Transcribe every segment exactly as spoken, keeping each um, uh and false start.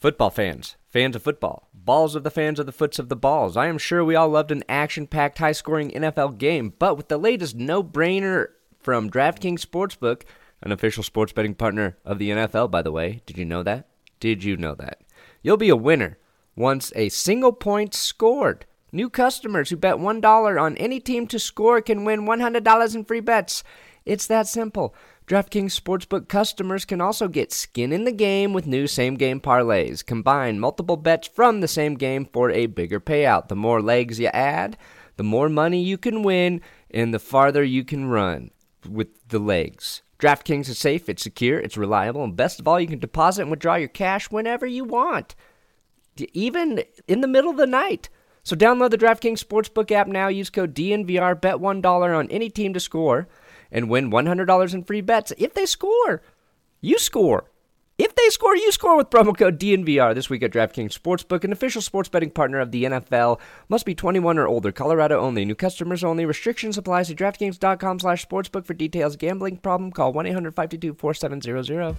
Football fans, fans of football, balls of the fans of the foots of the balls. I am sure we all loved an action-packed, high-scoring N F L game, but with the latest no-brainer from DraftKings Sportsbook, an official sports betting partner of the N F L, by the way. Did you know that? Did you know that? You'll be a winner once a single point scored. New customers who bet one dollar on any team to score can win one hundred dollars in free bets. It's that simple. DraftKings Sportsbook customers can also get skin in the game with new same-game parlays. Combine multiple bets from the same game for a bigger payout. The more legs you add, the more money you can win, and the farther you can run with the legs. DraftKings is safe, it's secure, it's reliable, and best of all, you can deposit and withdraw your cash whenever you want, even in the middle of the night. So download the DraftKings Sportsbook app now. Use code D N V R, bet one dollar on any team to score, and win one hundred dollars in free bets. If they score, you score. If they score, you score with promo code D N V R. This week at DraftKings Sportsbook, an official sports betting partner of the N F L. Must be twenty-one or older. Colorado only. New customers only. Restrictions apply. See DraftKings.com slash sportsbook for details. Gambling problem? Call one eight hundred five two two four seven zero zero.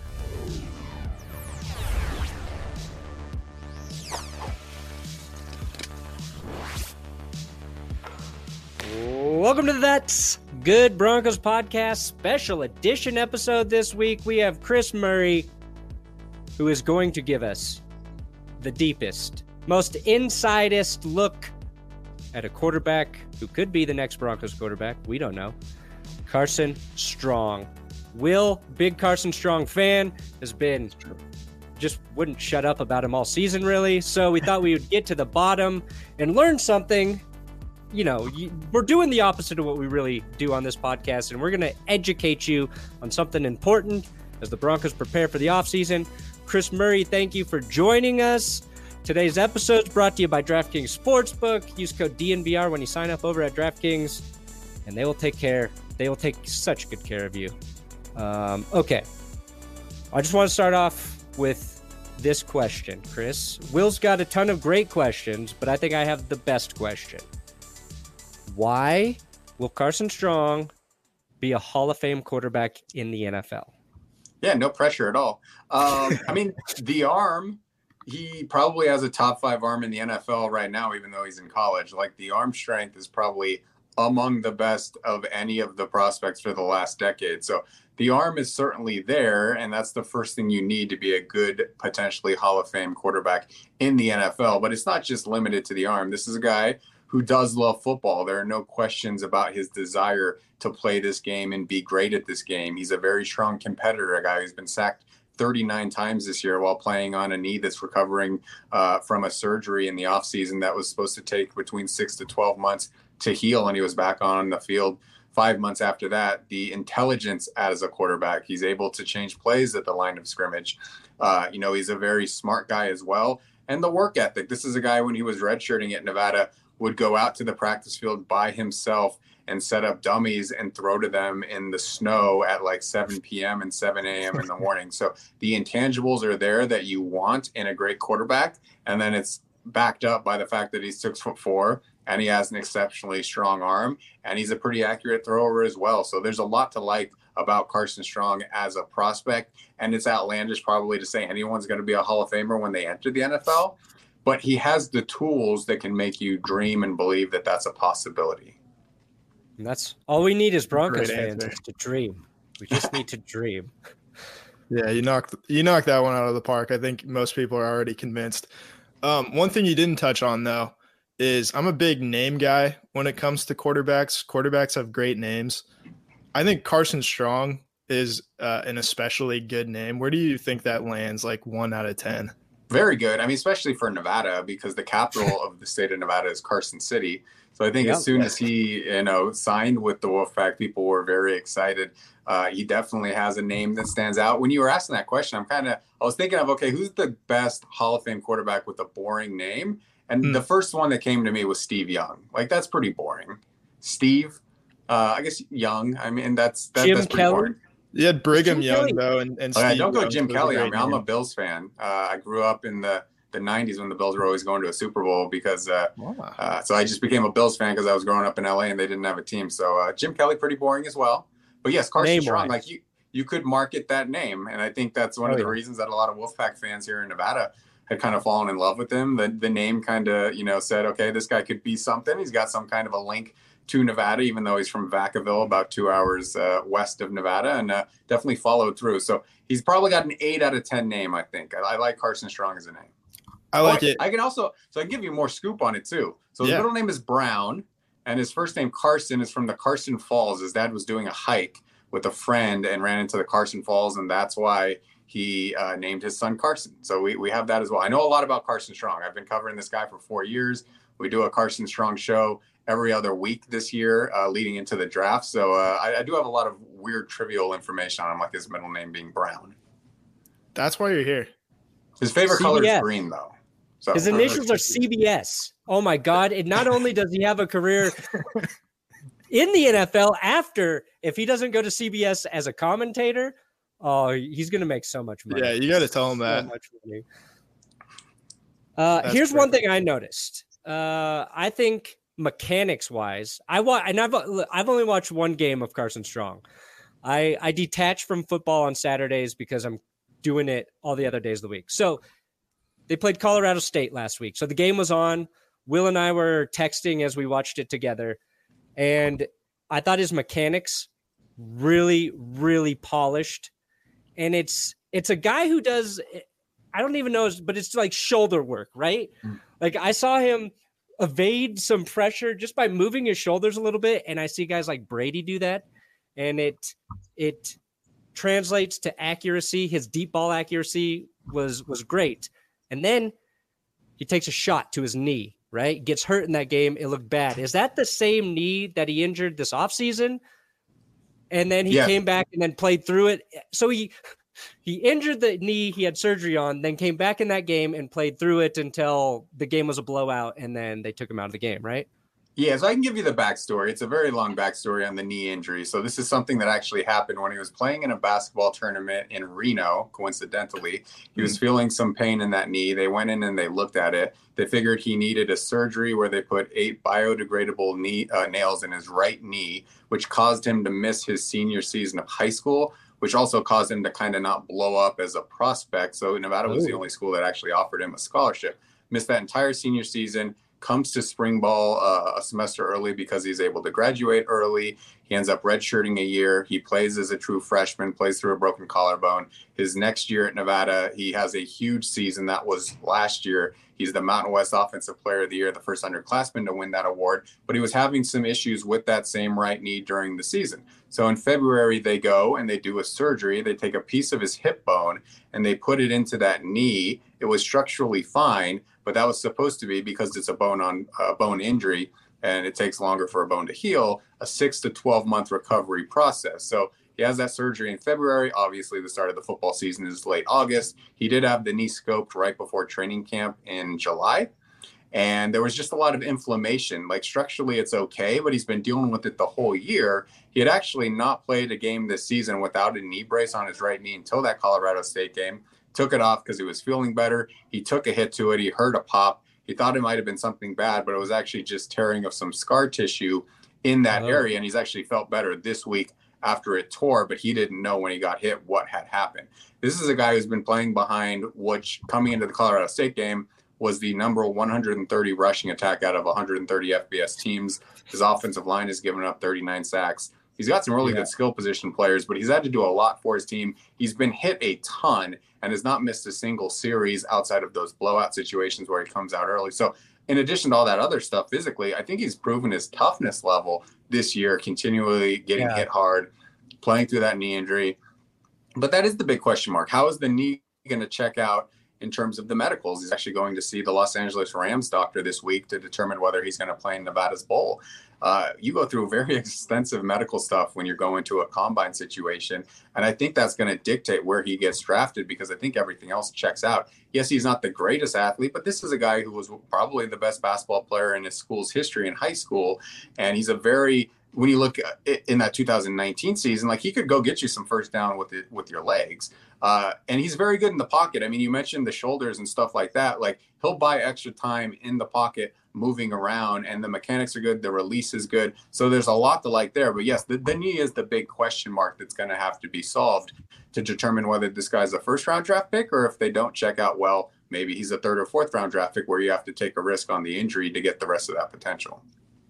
Welcome to the That's Good Broncos Podcast special edition episode this week. We have Chris Murray, who is going to give us the deepest, most insidest look at a quarterback who could be the next Broncos quarterback. We don't know. Carson Strong. Will, big Carson Strong fan, has been just wouldn't shut up about him all season, really. So we thought we would get to the bottom and learn something. You know, you, we're doing the opposite of what we really do on this podcast, and we're going to educate you on something important as the Broncos prepare for the offseason. Chris Murray, thank you for joining us. Today's episode is brought to you by DraftKings Sportsbook. Use code D N V R when you sign up over at DraftKings, and they will take care. They will take such good care of you. Um, okay. I just want to start off with this question, Chris. Will's got a ton of great questions, but I think I have the best question. Why will Carson Strong be a Hall of Fame quarterback in the N F L? Yeah, no pressure at all. Um, I mean, the arm, he probably has a top five arm in the N F L right now, even though he's in college. Like, the arm strength is probably among the best of any of the prospects for the last decade. So the arm is certainly there, and that's the first thing you need to be a good, potentially Hall of Fame quarterback in the N F L. But it's not just limited to the arm. This is a guy who does love football. There are no questions about his desire to play this game and be great at this game. He's a very strong competitor, a guy who's been sacked thirty-nine times this year while playing on a knee that's recovering uh, from a surgery in the offseason that was supposed to take between six to twelve months to heal, and he was back on the field five months after that. The intelligence as a quarterback, he's able to change plays at the line of scrimmage. Uh, you know, he's a very smart guy as well. And the work ethic. This is a guy, when he was redshirting at Nevada, would go out to the practice field by himself and set up dummies and throw to them in the snow at like seven p.m. and seven a.m. in the morning. So the intangibles are there that you want in a great quarterback. And then it's backed up by the fact that he's six foot four and he has an exceptionally strong arm and he's a pretty accurate thrower as well. So there's a lot to like about Carson Strong as a prospect. And it's outlandish probably to say anyone's going to be a Hall of Famer when they enter the N F L. But he has the tools that can make you dream and believe that that's a possibility. And that's all we need as Broncos fans is to dream. We just need to dream. Yeah, you knocked you knocked that one out of the park. I think most people are already convinced. Um, one thing you didn't touch on, though, is I'm a big name guy when it comes to quarterbacks. Quarterbacks have great names. I think Carson Strong is uh, an especially good name. Where do you think that lands, like one out of ten? Very good. I mean, especially for Nevada, because the capital of the state of Nevada is Carson City. So I think yep. as soon as he, you know, signed with the Wolfpack, people were very excited. Uh, he definitely has a name that stands out. When you were asking that question, I'm kind of, I was thinking of, okay, who's the best Hall of Fame quarterback with a boring name? And hmm. the first one that came to me was Steve Young. Like, that's pretty boring. Steve, uh, I guess Young. I mean, that's, that, Jim that's pretty Kelly. boring. You had Brigham Young, Kelly. though, and, and oh, yeah, don't go Young Jim Kelly. I mean, I'm name. a Bills fan. Uh, I grew up in the, the nineties when the Bills were always going to a Super Bowl because uh, wow. uh, so I just became a Bills fan because I was growing up in L A and they didn't have a team. So uh, Jim Kelly, pretty boring as well. But yes, Carson name Strong, wise. like you, you could market that name. And I think that's one oh, of the yeah. reasons that a lot of Wolfpack fans here in Nevada had kind of fallen in love with him. The, the name kind of, you know, said, okay, this guy could be something. He's got some kind of a link to Nevada, even though he's from Vacaville, about two hours uh, west of Nevada, and uh, definitely followed through. So he's probably got an eight out of ten name, I think. I, I like Carson Strong as a name. I like oh, it. I can also, so I can give you more scoop on it too. So his Yeah. middle name is Brown, and his first name Carson is from the Carson Falls. His dad was doing a hike with a friend and ran into the Carson Falls, and that's why he uh, named his son Carson. So we, we have that as well. I know a lot about Carson Strong. I've been covering this guy for four years. We do a Carson Strong show every other week this year uh, leading into the draft. So uh, I, I do have a lot of weird trivial information on him, like his middle name being Brown. That's why you're here. His favorite C B S. color is green, though. So His initials are C B S. Oh my God. And not only does he have a career in the N F L after, if he doesn't go to C B S as a commentator, oh, he's going to make so much money. Yeah, you got to tell him So that. much money. Uh, That's here's one perfect. thing I noticed. Uh, I think mechanics wise, I wa- and I've I've only watched one game of Carson Strong. I I detach from football on Saturdays because I'm doing it all the other days of the week. So they played Colorado State last week. So the game was on. Will and I were texting as we watched it together, and I thought his mechanics really, really polished. And it's it's a guy who does, I don't even know, but it's like shoulder work, right? Mm. Like I saw him evade some pressure just by moving his shoulders a little bit, and I see guys like Brady do that, and it it translates to accuracy. His deep ball accuracy was was great, and then he takes a shot to his knee, right? Gets hurt in that game. It looked bad. Is that the same knee that he injured this offseason? And then he Yeah. came back and then played through it. So he he injured the knee he had surgery on, then came back in that game and played through it until the game was a blowout, and then they took him out of the game, right? Yeah, so I can give you the backstory. It's a very long backstory on the knee injury. So this is something that actually happened when he was playing in a basketball tournament in Reno, coincidentally. He was feeling some pain in that knee. They went in and they looked at it. They figured he needed a surgery where they put eight biodegradable knee uh, nails in his right knee, which caused him to miss his senior season of high school, which also caused him to kind of not blow up as a prospect. So Nevada was the Ooh. only school that actually offered him a scholarship. Missed that entire senior season. Comes to spring ball uh, a semester early because he's able to graduate early. He ends up redshirting a year. He plays as a true freshman, plays through a broken collarbone. His next year at Nevada, he has a huge season. That was last year. He's the Mountain West Offensive Player of the Year, the first underclassman to win that award. But he was having some issues with that same right knee during the season. So in February, they go and they do a surgery. They take a piece of his hip bone and they put it into that knee. It was structurally fine, but that was supposed to be, because it's a bone on a bone injury and it takes longer for a bone to heal, a six to twelve month recovery process. So he has that surgery in February. Obviously, the start of the football season is late August. He did have the knee scoped right before training camp in July. And there was just a lot of inflammation. Like structurally, it's okay, but he's been dealing with it the whole year. He had actually not played a game this season without a knee brace on his right knee until that Colorado State game. Took it off because he was feeling better. He took a hit to it. He heard a pop. He thought it might have been something bad, but it was actually just tearing of some scar tissue in that Oh. area. And he's actually felt better this week after it tore, but he didn't know when he got hit what had happened. This is a guy who's been playing behind, which coming into the Colorado State game was the number one hundred thirty rushing attack out of one hundred thirty F B S teams. His offensive line has given up thirty-nine sacks. He's got some really Yeah. good skill position players, but he's had to do a lot for his team. He's been hit a ton and has not missed a single series outside of those blowout situations where he comes out early. So in addition to all that other stuff physically, I think he's proven his toughness level this year, continually getting Yeah. hit hard, playing through that knee injury. But that is the big question mark. How is the knee going to check out in terms of the medicals? He's actually going to see the Los Angeles Rams doctor this week to determine whether he's going to play in Nevada's bowl. Uh, you go through very extensive medical stuff when you're going to a combine situation. And I think that's going to dictate where he gets drafted, because I think everything else checks out. Yes, he's not the greatest athlete, but this is a guy who was probably the best basketball player in his school's history in high school. And he's a very, when you look in that two thousand nineteen season, like he could go get you some first down with it, with your legs. Uh, and he's very good in the pocket. I mean, you mentioned the shoulders and stuff like that. Like he'll buy extra time in the pocket, moving around, and the mechanics are good. The release is good. So there's a lot to like there. But yes, the, the knee is the big question mark that's going to have to be solved to determine whether this guy's a first round draft pick or if they don't check out well maybe he's a third or fourth round draft pick where you have to take a risk on the injury to get the rest of that potential.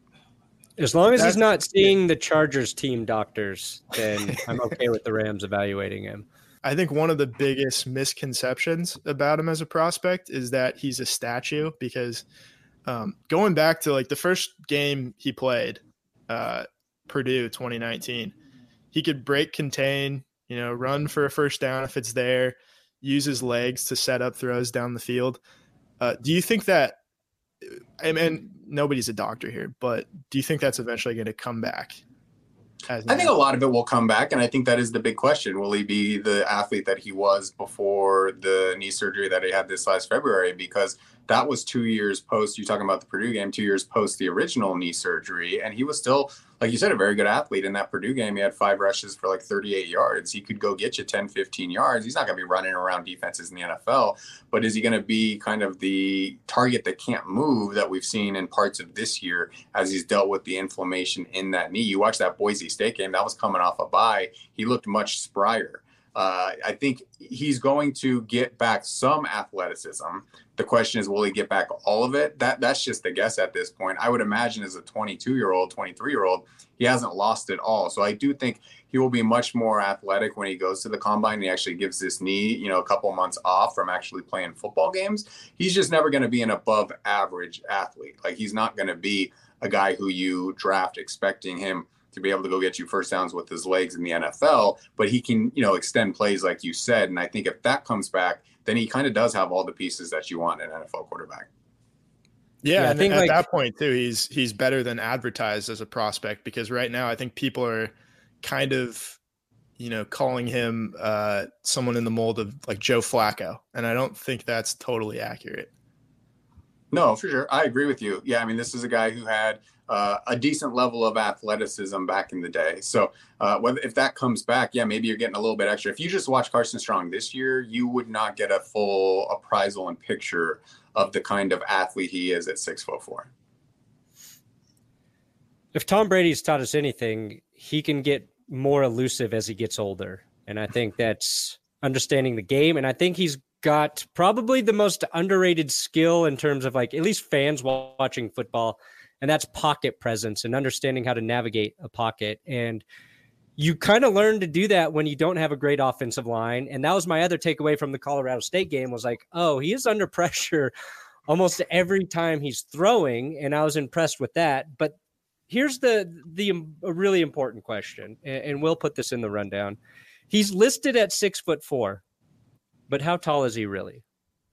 As long as That's, he's not seeing the Chargers team doctors, then I'm okay with the Rams evaluating him. I think one of the biggest misconceptions about him as a prospect is that he's a statue, because um, going back to like the first game he played, uh, Purdue twenty nineteen, he could break contain, you know, run for a first down if it's there, use his legs to set up throws down the field. Uh, do you think that, and, and nobody's a doctor here, but do you think that's eventually going to come back? I think a lot of it will come back, and I think that is the big question. Will he be the athlete that he was before the knee surgery that he had this last February? Because that was two years post, you're talking about the Purdue game, two years post the original knee surgery, and he was still, like you said, a very good athlete in that Purdue game. He had five rushes for like thirty-eight yards. He could go get you ten, fifteen yards. He's not going to be running around defenses in the N F L, but is he going to be kind of the target that can't move that we've seen in parts of this year as he's dealt with the inflammation in that knee? You watch that Boise State game, that was coming off a bye. He looked much sprier. Uh, I think he's going to get back some athleticism. The question is, will he get back all of it? That That's just a guess at this point. I would imagine as a twenty-two-year-old, twenty-three-year-old, he hasn't lost it all. So I do think he will be much more athletic when he goes to the combine and he actually gives this knee, you know, a couple months off from actually playing football games. He's just never going to be an above average athlete. Like, he's not going to be a guy who you draft expecting him to be able to go get you first downs with his legs in the N F L, but he can, you know, extend plays like you said. And I think if that comes back, then he kind of does have all the pieces that you want in an N F L quarterback. Yeah, yeah, and I think at like, that point too, he's he's better than advertised as a prospect, because right now I think people are kind of, you know, calling him uh, someone in the mold of like Joe Flacco, and I don't think that's totally accurate. No, for sure. I agree with you. Yeah, I mean, this is a guy who had uh, a decent level of athleticism back in the day. So uh, whether if that comes back, yeah, maybe you're getting a little bit extra. If you just watch Carson Strong this year, you would not get a full appraisal and picture of the kind of athlete he is at six foot four. If Tom Brady's taught us anything, he can get more elusive as he gets older. And I think that's understanding the game. And I think he's got probably the most underrated skill in terms of like at least fans watching football, and that's pocket presence and understanding how to navigate a pocket. And you kind of learn to do that when you don't have a great offensive line. And that was my other takeaway from the Colorado State game was like, oh, he is under pressure almost every time he's throwing. And I was impressed with that. But here's the, the a really important question, and we'll put this in the rundown. He's listed at six foot four. But how tall is he really?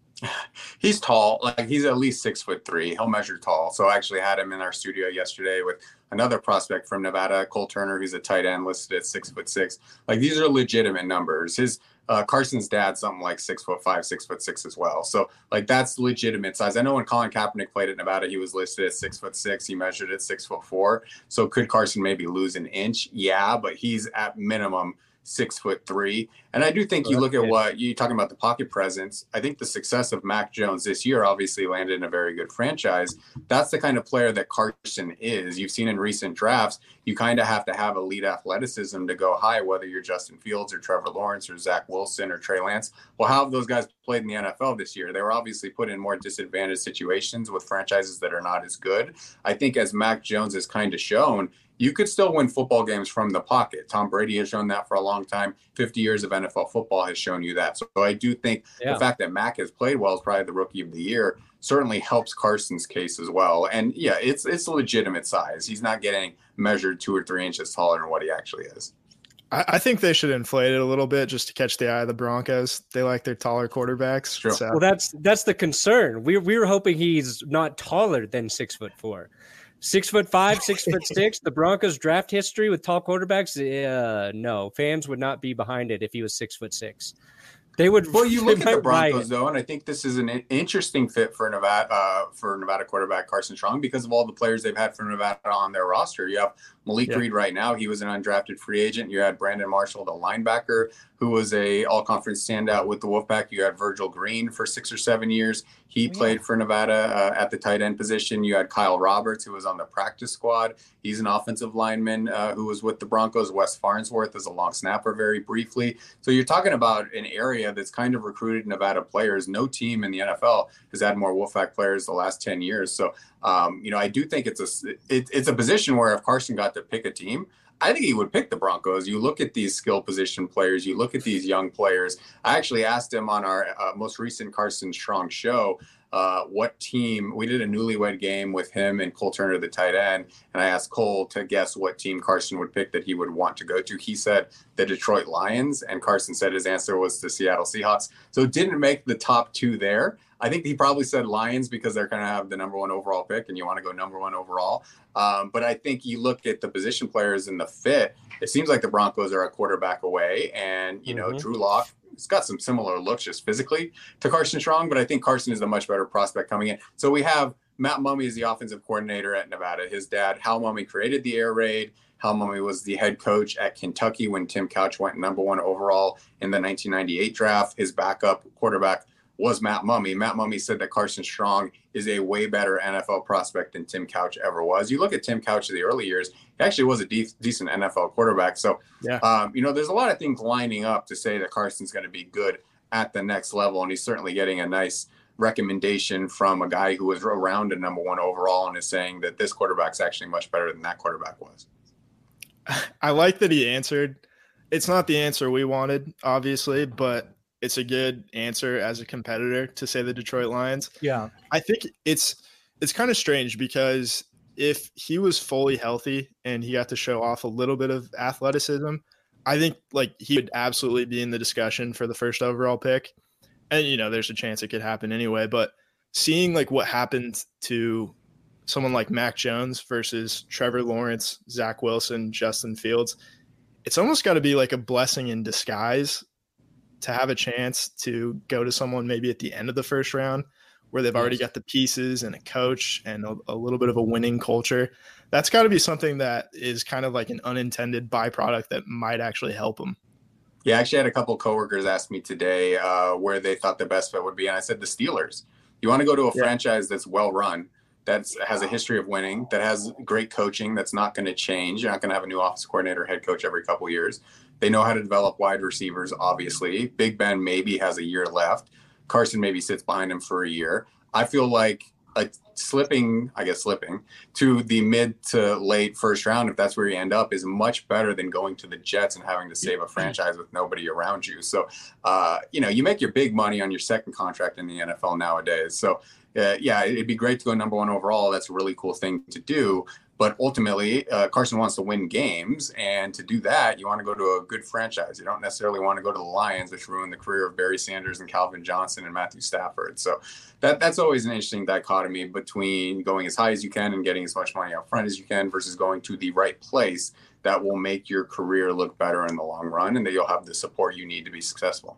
He's tall. Like, he's at least six foot three. He'll measure tall. So I actually had him in our studio yesterday with another prospect from Nevada, Cole Turner, who's a tight end, listed at six foot six. Like, these are legitimate numbers. His uh, Carson's dad, something like six foot five, six foot six as well. So like, that's legitimate size. I know when Colin Kaepernick played at Nevada, he was listed at six foot six. He measured at six foot four. So could Carson maybe lose an inch? Yeah, but he's at minimum six foot three. And I do think you look at what you're talking about, the pocket presence. I think the success of Mac Jones this year obviously landed in a very good franchise. That's the kind of player that Carson is. You've seen in recent drafts, you kind of have to have elite athleticism to go high, whether you're Justin Fields or Trevor Lawrence or Zach Wilson or Trey Lance. Well, how have those guys played in the N F L this year? They were obviously put in more disadvantaged situations with franchises that are not as good. I think as Mac Jones has kind of shown, you could still win football games from the pocket. Tom Brady has shown that for a long time. fifty years of N F L football has shown you that. So I do think yeah. the fact that Mac has played well as probably the rookie of the year certainly helps Carson's case as well. And yeah, it's it's a legitimate size. He's not getting measured two or three inches taller than what he actually is. I, I think they should inflate it a little bit just to catch the eye of the Broncos. They like their taller quarterbacks. Sure. So. Well, that's that's the concern. We we were hoping he's not taller than six foot four. Six foot five, six foot six. The Broncos draft history with tall quarterbacks. Uh, no, fans would not be behind it if he was six foot six. They would. Well, you look at the Broncos though, and I think this is an interesting fit for Nevada uh, for Nevada quarterback Carson Strong because of all the players they've had from Nevada on their roster. You have Malik Yeah. Reed right now, he was an undrafted free agent. You had Brandon Marshall, the linebacker, who was a all-conference standout with the Wolfpack. You had Virgil Green for six or seven years. He Oh, yeah. played for Nevada uh, at the tight end position. You had Kyle Roberts, who was on the practice squad. He's an offensive lineman uh, who was with the Broncos. Wes Farnsworth is a long snapper very briefly. So you're talking about an area that's kind of recruited Nevada players. No team in the N F L has had more Wolfpack players the last ten years. So, um, you know, I do think it's a, it, it's a position where if Carson got to pick a team, I think he would pick the Broncos. You look at these skill position players, you look at these young players. I actually asked him on our uh, most recent Carson Strong show, uh, what team, we did a newlywed game with him and Cole Turner, the tight end. And I asked Cole to guess what team Carson would pick that he would want to go to. He said the Detroit Lions, and Carson said his answer was the Seattle Seahawks. So it didn't make the top two there. I think he probably said Lions because they're going to have the number one overall pick and you want to go number one overall. Um, but I think you look at the position players and the fit, it seems like the Broncos are a quarterback away. And, you know, Mm-hmm. Drew Lock, it's got some similar looks just physically to Carson Strong, but I think Carson is the much better prospect coming in. So we have Matt Mumme as the offensive coordinator at Nevada. His dad, Hal Mumme, created the air raid. Hal Mumme was the head coach at Kentucky when Tim Couch went number one overall in the nineteen ninety-eight draft. His backup quarterback was Matt Mumme. Matt Mumme said that Carson Strong is a way better N F L prospect than Tim Couch ever was. You look at Tim Couch in the early years, he actually was a de- decent N F L quarterback. So, Yeah. um, you know, there's a lot of things lining up to say that Carson's going to be good at the next level. And he's certainly getting a nice recommendation from a guy who was around a number one overall and is saying that this quarterback's actually much better than that quarterback was. I like that he answered. It's not the answer we wanted, obviously, but it's a good answer as a competitor to say the Detroit Lions. Yeah. I think it's it's kind of strange because if he was fully healthy and he got to show off a little bit of athleticism, I think like he would absolutely be in the discussion for the first overall pick. And you know, there's a chance it could happen anyway, but seeing like what happened to someone like Mac Jones versus Trevor Lawrence, Zach Wilson, Justin Fields, it's almost got to be like a blessing in disguise to have a chance to go to someone maybe at the end of the first round where they've already got the pieces and a coach and a, a little bit of a winning culture. That's got to be something that is kind of like an unintended byproduct that might actually help them. Yeah, I actually had a couple of coworkers ask me today uh, where they thought the best fit would be. And I said, the Steelers. You want to go to a Yeah. franchise that's well run, that has a history of winning, that has great coaching, that's not going to change. You're not going to have a new office coordinator, head coach every couple of years. They know how to develop wide receivers, obviously. Big Ben maybe has a year left. Carson maybe sits behind him for a year. I feel like a slipping, I guess slipping, to the mid to late first round, if that's where you end up, is much better than going to the Jets and having to save a franchise with nobody around you. So, uh, you know, you make your big money on your second contract in the N F L nowadays. So, uh, yeah, it'd be great to go number one overall. That's a really cool thing to do. But ultimately, uh, Carson wants to win games. And to do that, you want to go to a good franchise. You don't necessarily want to go to the Lions, which ruined the career of Barry Sanders and Calvin Johnson and Matthew Stafford. So that that's always an interesting dichotomy between going as high as you can and getting as much money up front as you can versus going to the right place that will make your career look better in the long run and that you'll have the support you need to be successful.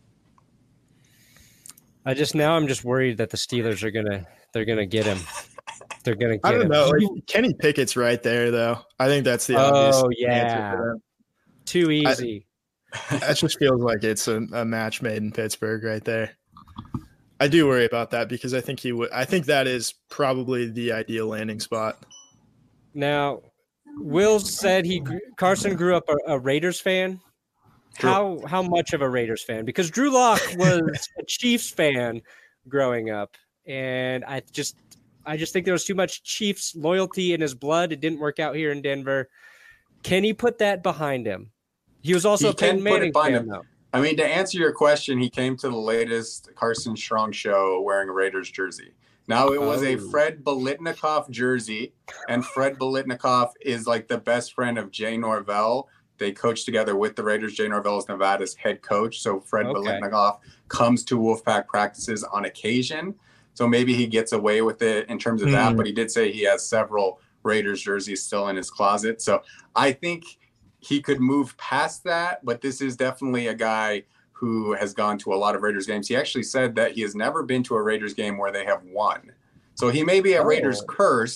I just now I'm just worried that the Steelers are gonna they're gonna get him. They're gonna get I don't him. know. Like, Kenny Pickett's right there, though. I think that's the Oh, obvious yeah. answer for them. Too easy. That just feels like it's a, a match made in Pittsburgh right there. I do worry about that because I think he would. I think that is probably the ideal landing spot. Now, Will said he gr- Carson grew up a, a Raiders fan. True. How how much of a Raiders fan? Because Drew Lock was a Chiefs fan growing up, and I just I just think there was too much Chiefs loyalty in his blood. It didn't work out here in Denver. Can he put that behind him? He was also He a Peyton can put it Manning behind fan, him. though. I mean, to answer your question, he came to the latest Carson Strong show wearing a Raiders jersey. Now, it was Oh. a Fred Biletnikoff jersey, and Fred Biletnikoff is like the best friend of Jay Norvell. They coach together with the Raiders. Jay Norvell is Nevada's head coach. So Fred Okay. Biletnikoff comes to Wolfpack practices on occasion. So maybe he gets away with it in terms of that, Mm. but he did say he has several Raiders jerseys still in his closet. So I think he could move past that, but this is definitely a guy who has gone to a lot of Raiders games. He actually said that he has never been to a Raiders game where they have won. So he may be a Oh. Raiders curse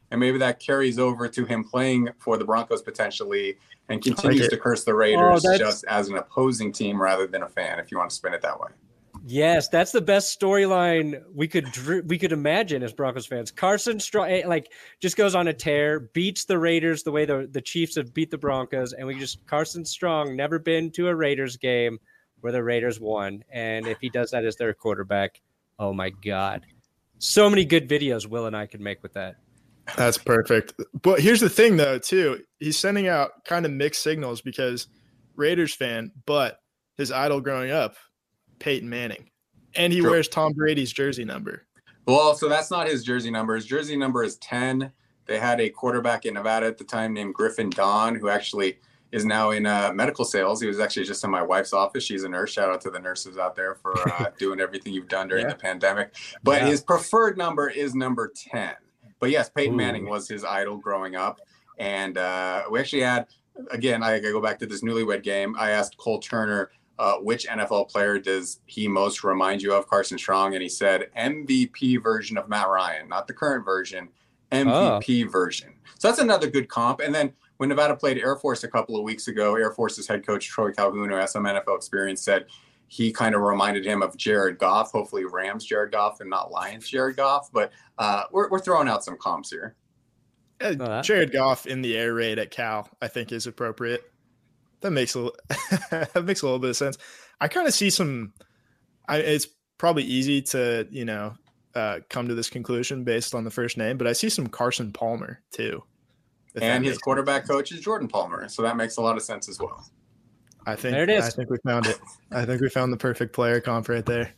and maybe that carries over to him playing for the Broncos potentially and continues like to curse the Raiders oh, just as an opposing team rather than a fan, if you want to spin it that way. Yes, that's the best storyline we could we could imagine as Broncos fans. Carson Strong like just goes on a tear, beats the Raiders the way the, the Chiefs have beat the Broncos, and we just Carson Strong never been to a Raiders game where the Raiders won, and if he does that as their quarterback, oh my God, so many good videos Will and I could make with that. That's perfect. But here's the thing, though, too. He's sending out kind of mixed signals because Raiders fan, but his idol growing up, Peyton Manning, and he True. wears Tom Brady's jersey number. Well, so that's not his jersey number. His jersey number is ten. They had a quarterback in Nevada at the time named Griffin Don, who actually is now in uh, medical sales. He was actually just in my wife's office. She's a nurse. Shout out to the nurses out there for uh, doing everything you've done during yeah. the pandemic. But yeah. his preferred number is number ten. But yes, Peyton Ooh. Manning was his idol growing up. And uh, we actually had, again, I go back to this newlywed game. I asked Cole Turner, Uh, which N F L player does he most remind you of, Carson Strong? And he said M V P version of Matt Ryan, not the current version, M V P oh. version. So that's another good comp. And then when Nevada played Air Force a couple of weeks ago, Air Force's head coach, Troy Calhoun, who has some N F L experience, said he kind of reminded him of Jared Goff, hopefully Rams Jared Goff and not Lions Jared Goff. But uh, we're, we're throwing out some comps here. Uh, Jared Goff in the air raid at Cal, I think, is appropriate. That makes a little, that makes a little bit of sense. I kind of see some. I, it's probably easy to you know uh, come to this conclusion based on the first name, but I see some Carson Palmer too. And his quarterback sense. coach is Jordan Palmer, so that makes a lot of sense as well. I think there it is. I think we found it. I think we found the perfect player comp right there.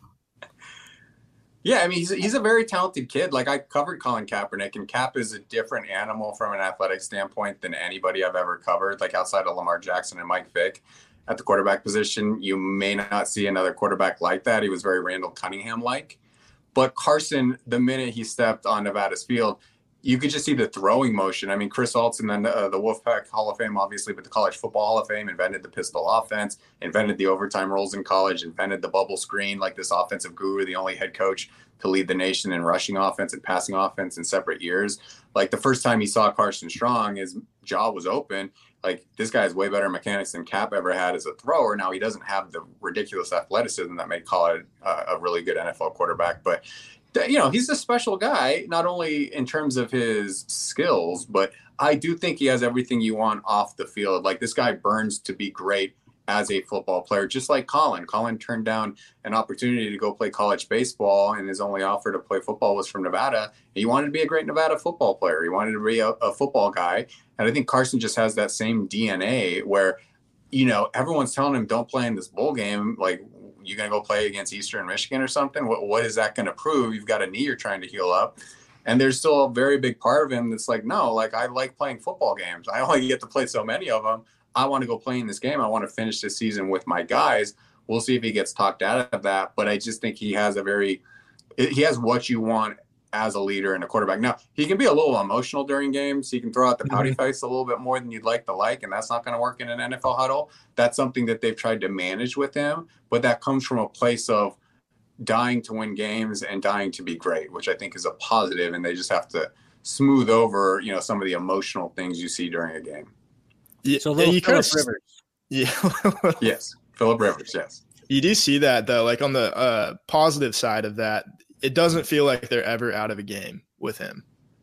Yeah, I mean, he's a, he's a very talented kid. Like, I covered Colin Kaepernick, and Cap is a different animal from an athletic standpoint than anybody I've ever covered, like outside of Lamar Jackson and Mike Vick. At the quarterback position, you may not see another quarterback like that. He was very Randall Cunningham-like. But Carson, the minute he stepped on Nevada's field, you could just see the throwing motion. I mean, Chris Alton, then uh, the Wolfpack Hall of Fame, obviously, but the College Football Hall of Fame, invented the pistol offense, invented the overtime rules in college, invented the bubble screen, like this offensive guru, the only head coach to lead the nation in rushing offense and passing offense in separate years. Like, the first time he saw Carson Strong, his jaw was open. Like, this guy has way better mechanics than Cap ever had as a thrower. Now, he doesn't have the ridiculous athleticism that may call it uh, a really good N F L quarterback, but you know, he's a special guy, not only in terms of his skills, but I do think he has everything you want off the field. Like, this guy burns to be great as a football player, just like Colin. Colin turned down an opportunity to go play college baseball, and his only offer to play football was from Nevada. He wanted to be a great Nevada football player. He wanted to be a, a football guy. And I think Carson just has that same D N A where, you know, everyone's telling him, don't play in this bowl game. Like, you going to go play against Eastern Michigan or something? What What is that going to prove? You've got a knee you're trying to heal up. And there's still a very big part of him that's like, no, like, I like playing football games. I only get to play so many of them. I want to go play in this game. I want to finish this season with my guys. We'll see if he gets talked out of that. But I just think he has a very – he has what you want as a leader and a quarterback. Now, he can be a little emotional during games. He can throw out the pouty mm-hmm. face a little bit more than you'd like to like, and that's not going to work in an N F L huddle. That's something that they've tried to manage with him, but that comes from a place of dying to win games and dying to be great, which I think is a positive, and they just have to smooth over, you know, some of the emotional things you see during a game. Yeah, so a little Phillip Rivers. Yeah. Yes, Phillip Rivers, yes. You do see that, though, like on the uh, positive side of that, it doesn't feel like they're ever out of a game with him.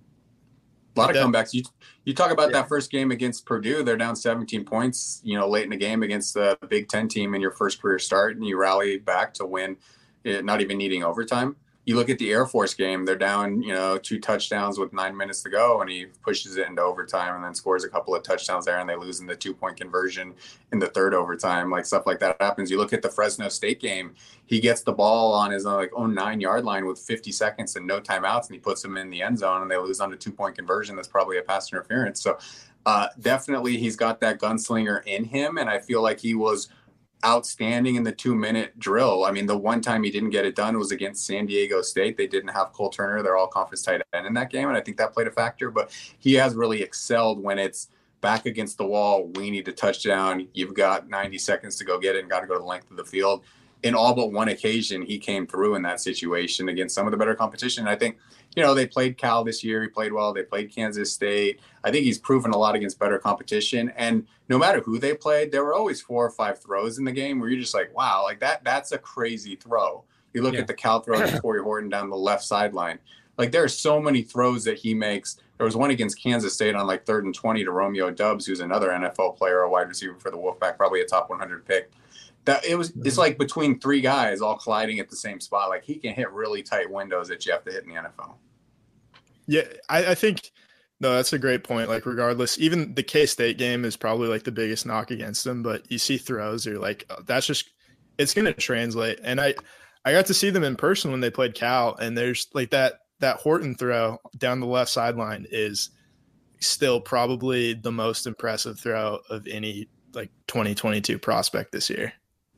A lot of comebacks. You you talk about yeah. that first game against Purdue. They're down seventeen points, you know, late in the game against the Big Ten team in your first career start, and you rally back to win, not even needing overtime. You look at the Air Force game, they're down, you know, two touchdowns with nine minutes to go, and he pushes it into overtime and then scores a couple of touchdowns there, and they lose in the two-point conversion in the third overtime. Like, stuff like that happens. You look at the Fresno State game, he gets the ball on his like own nine-yard line with fifty seconds and no timeouts, and he puts them in the end zone, and they lose on a two-point conversion. That's probably a pass interference. So uh, definitely he's got that gunslinger in him, and I feel like he was – outstanding in the two minute drill. I mean, the one time he didn't get it done was against San Diego State. They didn't have Cole Turner. They're all conference tight end in that game. And I think that played a factor, but he has really excelled when it's back against the wall. We need a touchdown. You've got ninety seconds to go get it and got to go to the length of the field. in all but one occasion, he came through in that situation against some of the better competition. I think, you know, they played Cal this year. He played well. They played Kansas State. I think he's proven a lot against better competition. And no matter who they played, there were always four or five throws in the game where you're just like, wow, like that, that's a crazy throw. You look yeah. at the Cal throw to Torrey Horton down the left sideline. Like there are so many throws that he makes. There was one against Kansas State on like third and twenty to Romeo Doubs, who's another N F L player, a wide receiver for the Wolfpack, probably a top one hundred pick. That it was, it's like between three guys all colliding at the same spot. Like he can hit really tight windows that you have to hit in the N F L. Yeah, I, I think, no, that's a great point. Like regardless, even the K-State game is probably like the biggest knock against him, but you see throws, you're like, oh, that's just, it's going to translate. And I, I got to see them in person when they played Cal, and there's like that, that Horton throw down the left sideline is still probably the most impressive throw of any like twenty twenty-two prospect this year.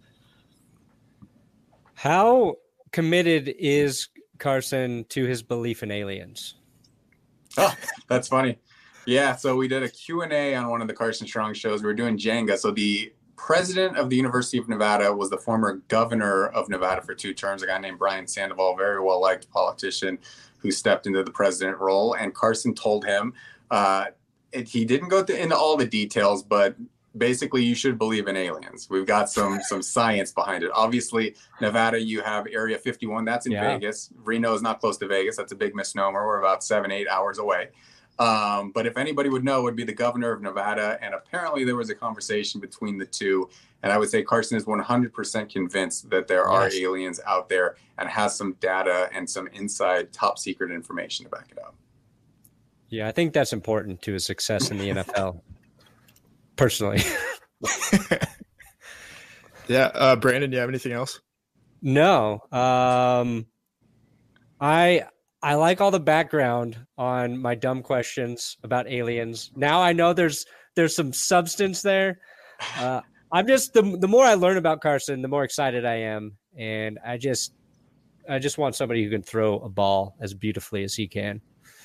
How committed is Carson to his belief in aliens? Oh, that's funny. Yeah, so we did a Q and A on one of the Carson Strong shows. We were doing Jenga. So the president of the University of Nevada was the former governor of Nevada for two terms, a guy named Brian Sandoval, very well-liked politician who stepped into the president role. And Carson told him, uh, it, he didn't go to, into all the details, but basically you should believe in aliens. We've got some some science behind it. Obviously, Nevada, you have Area fifty-one. That's in yeah. Vegas. Reno is not close to Vegas. That's a big misnomer. We're about seven, eight hours away. Um, but if anybody would know, it would be the governor of Nevada. And apparently there was a conversation between the two. And I would say Carson is one hundred percent convinced that there are yes. aliens out there and has some data and some inside top secret information to back it up. Yeah, I think that's important to his success in the N F L. Personally. yeah. Uh, Brandon, do you have anything else? No. Um, I I like all the background on my dumb questions about aliens. Now I know there's there's some substance there. Uh, I'm just the the more I learn about Carson, the more excited I am, and I just I just want somebody who can throw a ball as beautifully as he can.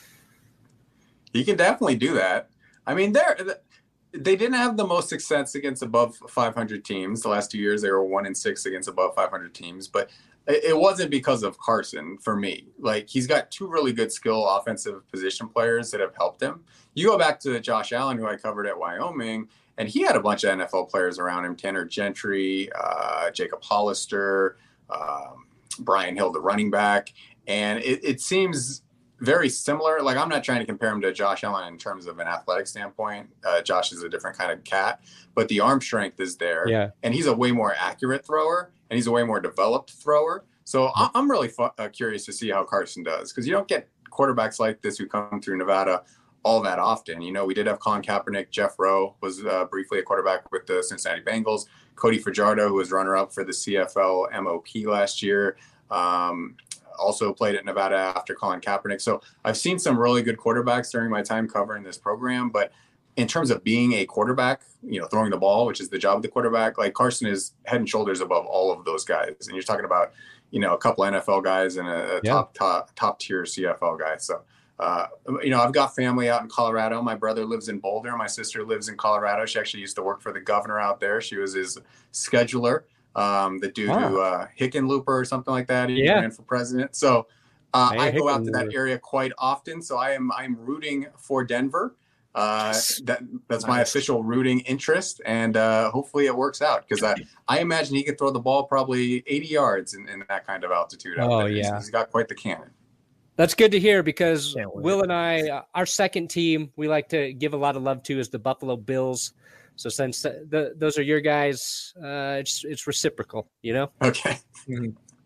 He can definitely do that. I mean, they're they didn't have the most success against above five hundred teams. The last two years, they were one and six against above five hundred teams, but it wasn't because of Carson for me. Like he's got two really good skill offensive position players that have helped him. You go back to Josh Allen, who I covered at Wyoming, and he had a bunch of N F L players around him: Tanner Gentry, uh, Jacob Hollister, um, Brian Hill, the running back. And it, it seems very similar. Like I'm not trying to compare him to Josh Allen in terms of an athletic standpoint. Uh, Josh is a different kind of cat, but the arm strength is there. Yeah. And he's a way more accurate thrower, and he's a way more developed thrower. So I'm really fu- uh, curious to see how Carson does, because you don't get quarterbacks like this who come through Nevada all that often. You know, we did have Colin Kaepernick. Jeff Rowe was uh, briefly a quarterback with the Cincinnati Bengals. Cody Fajardo, who was runner-up for the C F L M O P last year, um, also played at Nevada after Colin Kaepernick. So I've seen some really good quarterbacks during my time covering this program. But in terms of being a quarterback, you know, throwing the ball, which is the job of the quarterback, like Carson is head and shoulders above all of those guys. And you're talking about, you know, a couple N F L guys and a, a yeah. top, top, top tier C F L guy. So, uh, you know, I've got family out in Colorado. My brother lives in Boulder. My sister lives in Colorado. She actually used to work for the governor out there. She was his scheduler. Um, the dude wow. who uh, Hickenlooper or something like that. He yeah. ran for president. So uh, I go out to that area quite often. So I am I'm rooting for Denver. Uh, that that's my nice. official rooting interest, and uh, hopefully it works out, because I, I imagine he could throw the ball probably eighty yards in, in that kind of altitude. Out oh there. yeah, he's, he's got quite the cannon. That's good to hear, because Will and I, uh, our second team, we like to give a lot of love to is the Buffalo Bills. So since the, the, those are your guys, uh, it's it's reciprocal, you know? Okay. Mm-hmm.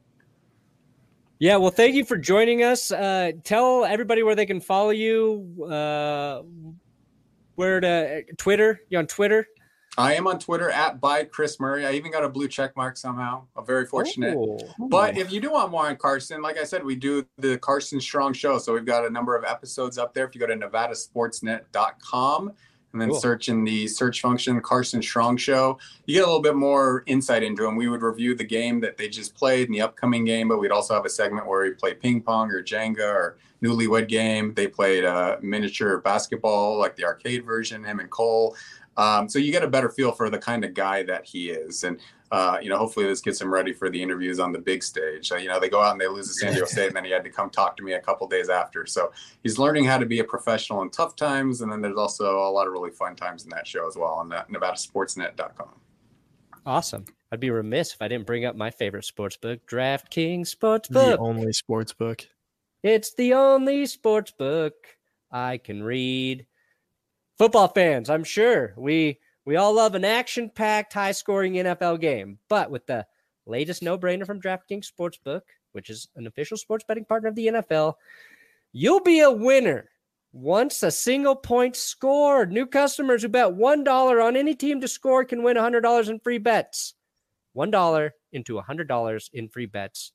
Yeah, well, thank you for joining us. Uh, tell everybody where they can follow you, uh, where to Twitter. You on Twitter? I am on Twitter at by Chris Murray. I even got a blue check mark somehow. I'm very fortunate. Ooh. But if you do want more on Carson, like I said, we do the Carson Strong Show. So we've got a number of episodes up there. If you go to nevada sports net dot com and then cool. search in the search function Carson Strong Show, you get a little bit more insight into him. We would review the game that they just played and the upcoming game, but we'd also have a segment where we play ping pong or Jenga or Newlywed Game. They played uh, miniature basketball, like the arcade version, him and Cole. Um, so you get a better feel for the kind of guy that he is. And, uh, you know, hopefully this gets him ready for the interviews on the big stage. Uh, you know, they go out and they lose to San Diego State, and then he had to come talk to me a couple days after. So he's learning how to be a professional in tough times. And then there's also a lot of really fun times in that show as well on Nevada Sportsnet dot com. Awesome. I'd be remiss if I didn't bring up my favorite sports book, DraftKings Sportsbook. The only sports book. It's the only sports book I can read. Football fans, I'm sure we we all love an action-packed, high-scoring N F L game. But with the latest no-brainer from DraftKings Sportsbook, which is an official sports betting partner of the N F L, you'll be a winner once a single point scored. New customers who bet one dollar on any team to score can win one hundred dollars in free bets. one dollar into one hundred dollars in free bets.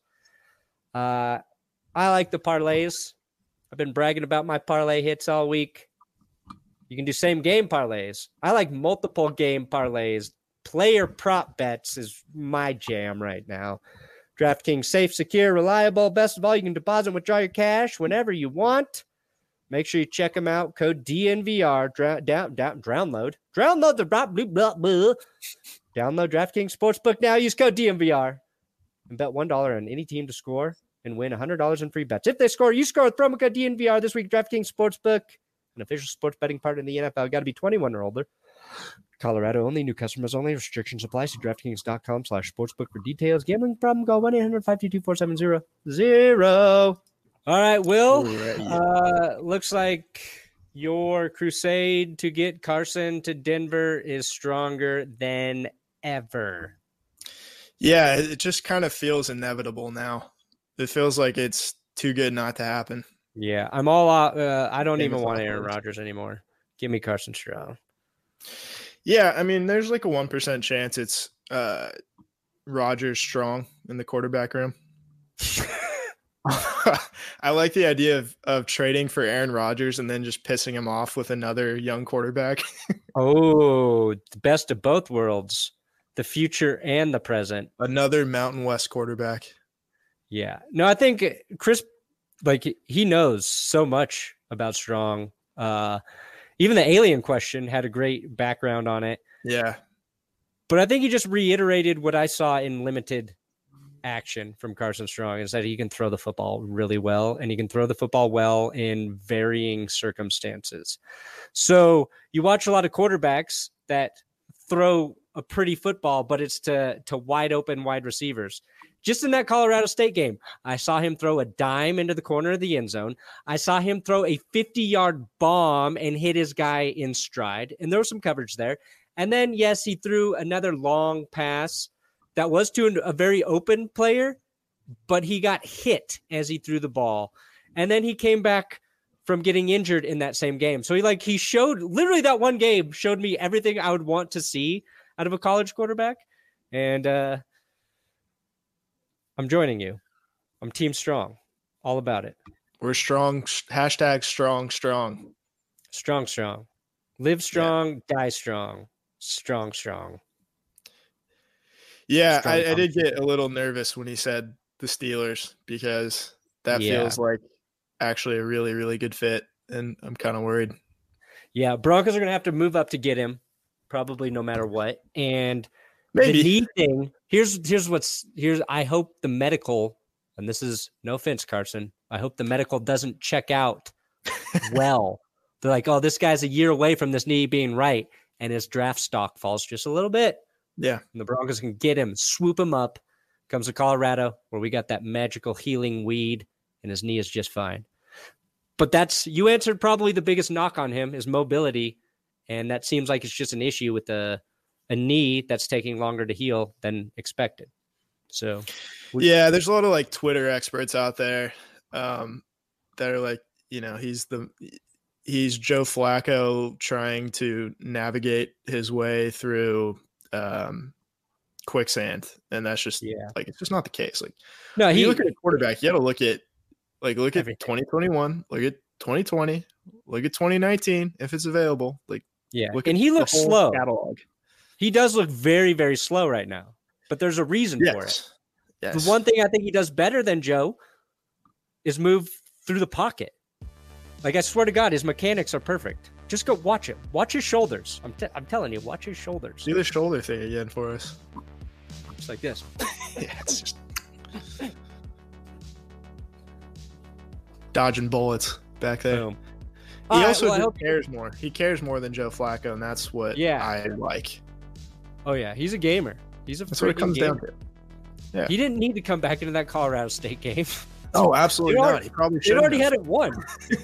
Uh, I like the parlays. I've been bragging about my parlay hits all week. You can do same game parlays. I like multiple game parlays. Player prop bets is my jam right now. DraftKings, safe, secure, reliable. Best of all, you can deposit and withdraw your cash whenever you want. Make sure you check them out. Code D N V R. Dra- down, down, download. Download the blah, blah, blah, blah. Download DraftKings Sportsbook now. Use code D N V R and bet one dollar on any team to score and win one hundred dollars in free bets. If they score, you score with promo code D N V R this week. DraftKings Sportsbook, an official sports betting partner in the N F L. Got to be twenty-one or older. Colorado only. New customers only. Restrictions apply. See DraftKings.com slash sportsbook for details. Gambling problem? Call one eight hundred five two two four seven zero zero. All right, Will. Uh, looks like your crusade to get Carson to Denver is stronger than ever. Yeah, it just kind of feels inevitable now. It feels like it's too good not to happen. Yeah, I'm all out. Uh, I don't Game even of want thought Aaron words. Rodgers anymore. Give me Carson Strong. Yeah, I mean, there's like a one percent chance it's uh, Rodgers Strong in the quarterback room. I like the idea of, of trading for Aaron Rodgers and then just pissing him off with another young quarterback. Oh, the best of both worlds, the future and the present. Another Mountain West quarterback. Yeah. No, I think Chris, like, he knows so much about Strong. Uh, even the alien question had a great background on it. Yeah. But I think he just reiterated what I saw in limited action from Carson Strong, is that he can throw the football really well, and he can throw the football well in varying circumstances. So you watch a lot of quarterbacks that throw a pretty football, but it's to, to wide open wide receivers. Just in that Colorado State game, I saw him throw a dime into the corner of the end zone. I saw him throw a fifty-yard bomb and hit his guy in stride, and there was some coverage there. And then, yes, he threw another long pass that was to a very open player, but he got hit as he threw the ball. And then he came back from getting injured in that same game. So he like he showed literally that one game showed me everything I would want to see out of a college quarterback. And uh, I'm joining you. I'm Team Strong. All about it. We're strong. Hashtag strong, strong. Strong, strong. Live strong, yeah. Die strong. Strong, strong. Yeah, Strong I, I did get a little nervous when he said the Steelers, because that Yeah. feels like actually a really, really good fit, and I'm kind of worried. Yeah, Broncos are going to have to move up to get him, probably no matter what. And Maybe. the knee thing, here's here's what's here's I hope the medical, and this is no offense, Carson, I hope the medical doesn't check out well. They're like, oh, this guy's a year away from this knee being right, and his draft stock falls just a little bit. Yeah. And the Broncos can get him, swoop him up, comes to Colorado, where we got that magical healing weed, and his knee is just fine. But that's, you answered probably the biggest knock on him is mobility, and that seems like it's just an issue with a, a knee that's taking longer to heal than expected. So, we, yeah, there's a lot of like Twitter experts out there um, that are like, you know, he's the he's Joe Flacco trying to navigate his way through um, quicksand, and that's just yeah, like it's just not the case. Like, no, when he you look at a quarterback, you got to look at like look at Everything. twenty twenty-one, look at twenty twenty, look at twenty nineteen if it's available. Like, yeah, look and at he the looks whole slow. catalog. He does look very, very slow right now, but there's a reason for it. Yes. Yes. The one thing I think he does better than Joe is move through the pocket. Like, I swear to God, his mechanics are perfect. Just go watch it. Watch his shoulders. I'm, t- I'm telling you, watch his shoulders. Do the shoulder thing again for us. Just like this. Yeah, it's just dodging bullets back there. Boom. He All right, also well, I just hope- cares more. He cares more than Joe Flacco, and that's what Yeah. I like. Oh yeah, he's a gamer. He's a That's what it freaking comes gamer. down to. He didn't need to come back into that Colorado State game. Oh, absolutely It not. already- He probably They should already had it won.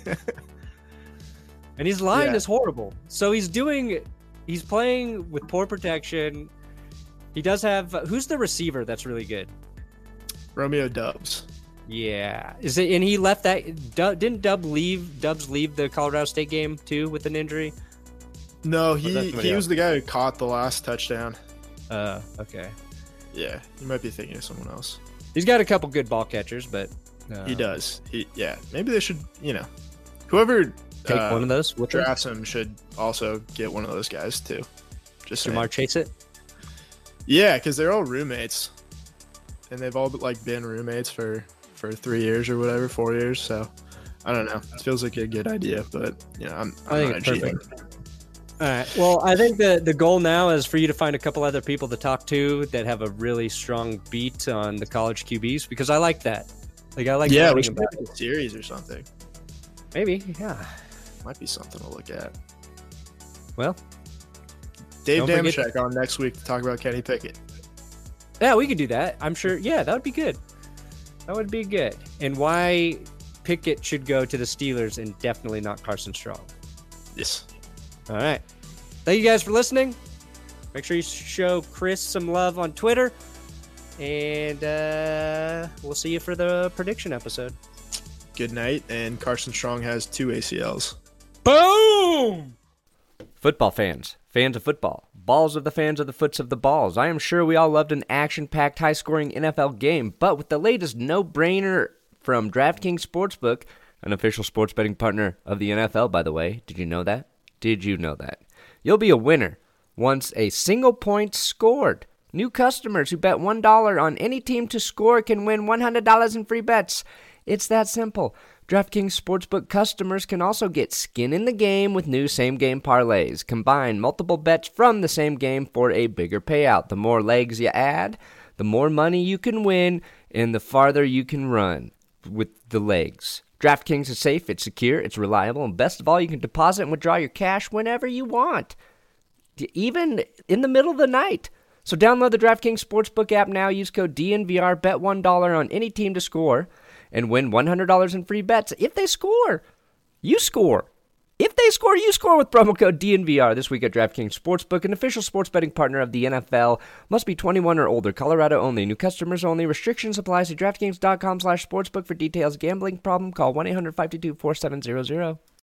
And his line Yeah. is horrible. So he's doing, he's playing with poor protection. He does have, who's the receiver that's really good? Romeo Dubs. Yeah. Is it, and he left that, Dub, didn't Dub leave, Dubs leave the Colorado State game too with an injury? No, that he somebody he else? was the guy who caught the last touchdown. Uh, okay. Yeah, you might be thinking of someone else. He's got a couple good ball catchers, but. Uh, He does. He yeah. Maybe they should. You know, whoever Take uh, one of those with him. drafts him should also get one of those guys too. Just saying. Jamar Chase it. Yeah, because they're all roommates, and they've all like been roommates for for three years or whatever, four years. So I don't know. It feels like a good idea, but you know, I'm, I'm I think not it's cheating. perfect. All right. Well, I think the the goal now is for you to find a couple other people to talk to that have a really strong beat on the college Q Bs, because I like that. Like I like Yeah, we learning should about make a series or something. it. Maybe. Yeah. Might be something to look at. Well. Dave Don't forget- Damashek on next week to talk about Kenny Pickett. Yeah, we could do that. I'm sure. Yeah, that would be good. That would be good. And why Pickett should go to the Steelers and definitely not Carson Strong. Yes. All right. Thank you guys for listening. Make sure you show Chris some love on Twitter. And uh, we'll see you for the prediction episode. Good night. And Carson Strong has two A C Ls. Boom! Football fans, fans of football, balls of the fans of the foots of the balls. I am sure we all loved an action-packed, high-scoring N F L game, but with the latest no-brainer from DraftKings Sportsbook, an official sports betting partner of the N F L, by the way. Did you know that? Did you know that? You'll be a winner once a single point scored. New customers who bet one dollar on any team to score can win one hundred dollars in free bets. It's that simple. DraftKings Sportsbook customers can also get skin in the game with new same-game parlays. Combine multiple bets from the same game for a bigger payout. The more legs you add, the more money you can win, and the farther you can run with the legs. DraftKings is safe, it's secure, it's reliable, and best of all, you can deposit and withdraw your cash whenever you want, even in the middle of the night. So download the DraftKings Sportsbook app now. Use code D N V R, bet one dollar on any team to score, and win one hundred dollars in free bets. If they score, you score. If they score, you score with promo code D N V R this week at DraftKings Sportsbook, an official sports betting partner of the N F L. Must be twenty-one or older. Colorado only. New customers only. Restrictions apply. See DraftKings.com slash sportsbook for details. Gambling problem? Call one eight hundred five two two four seven zero zero.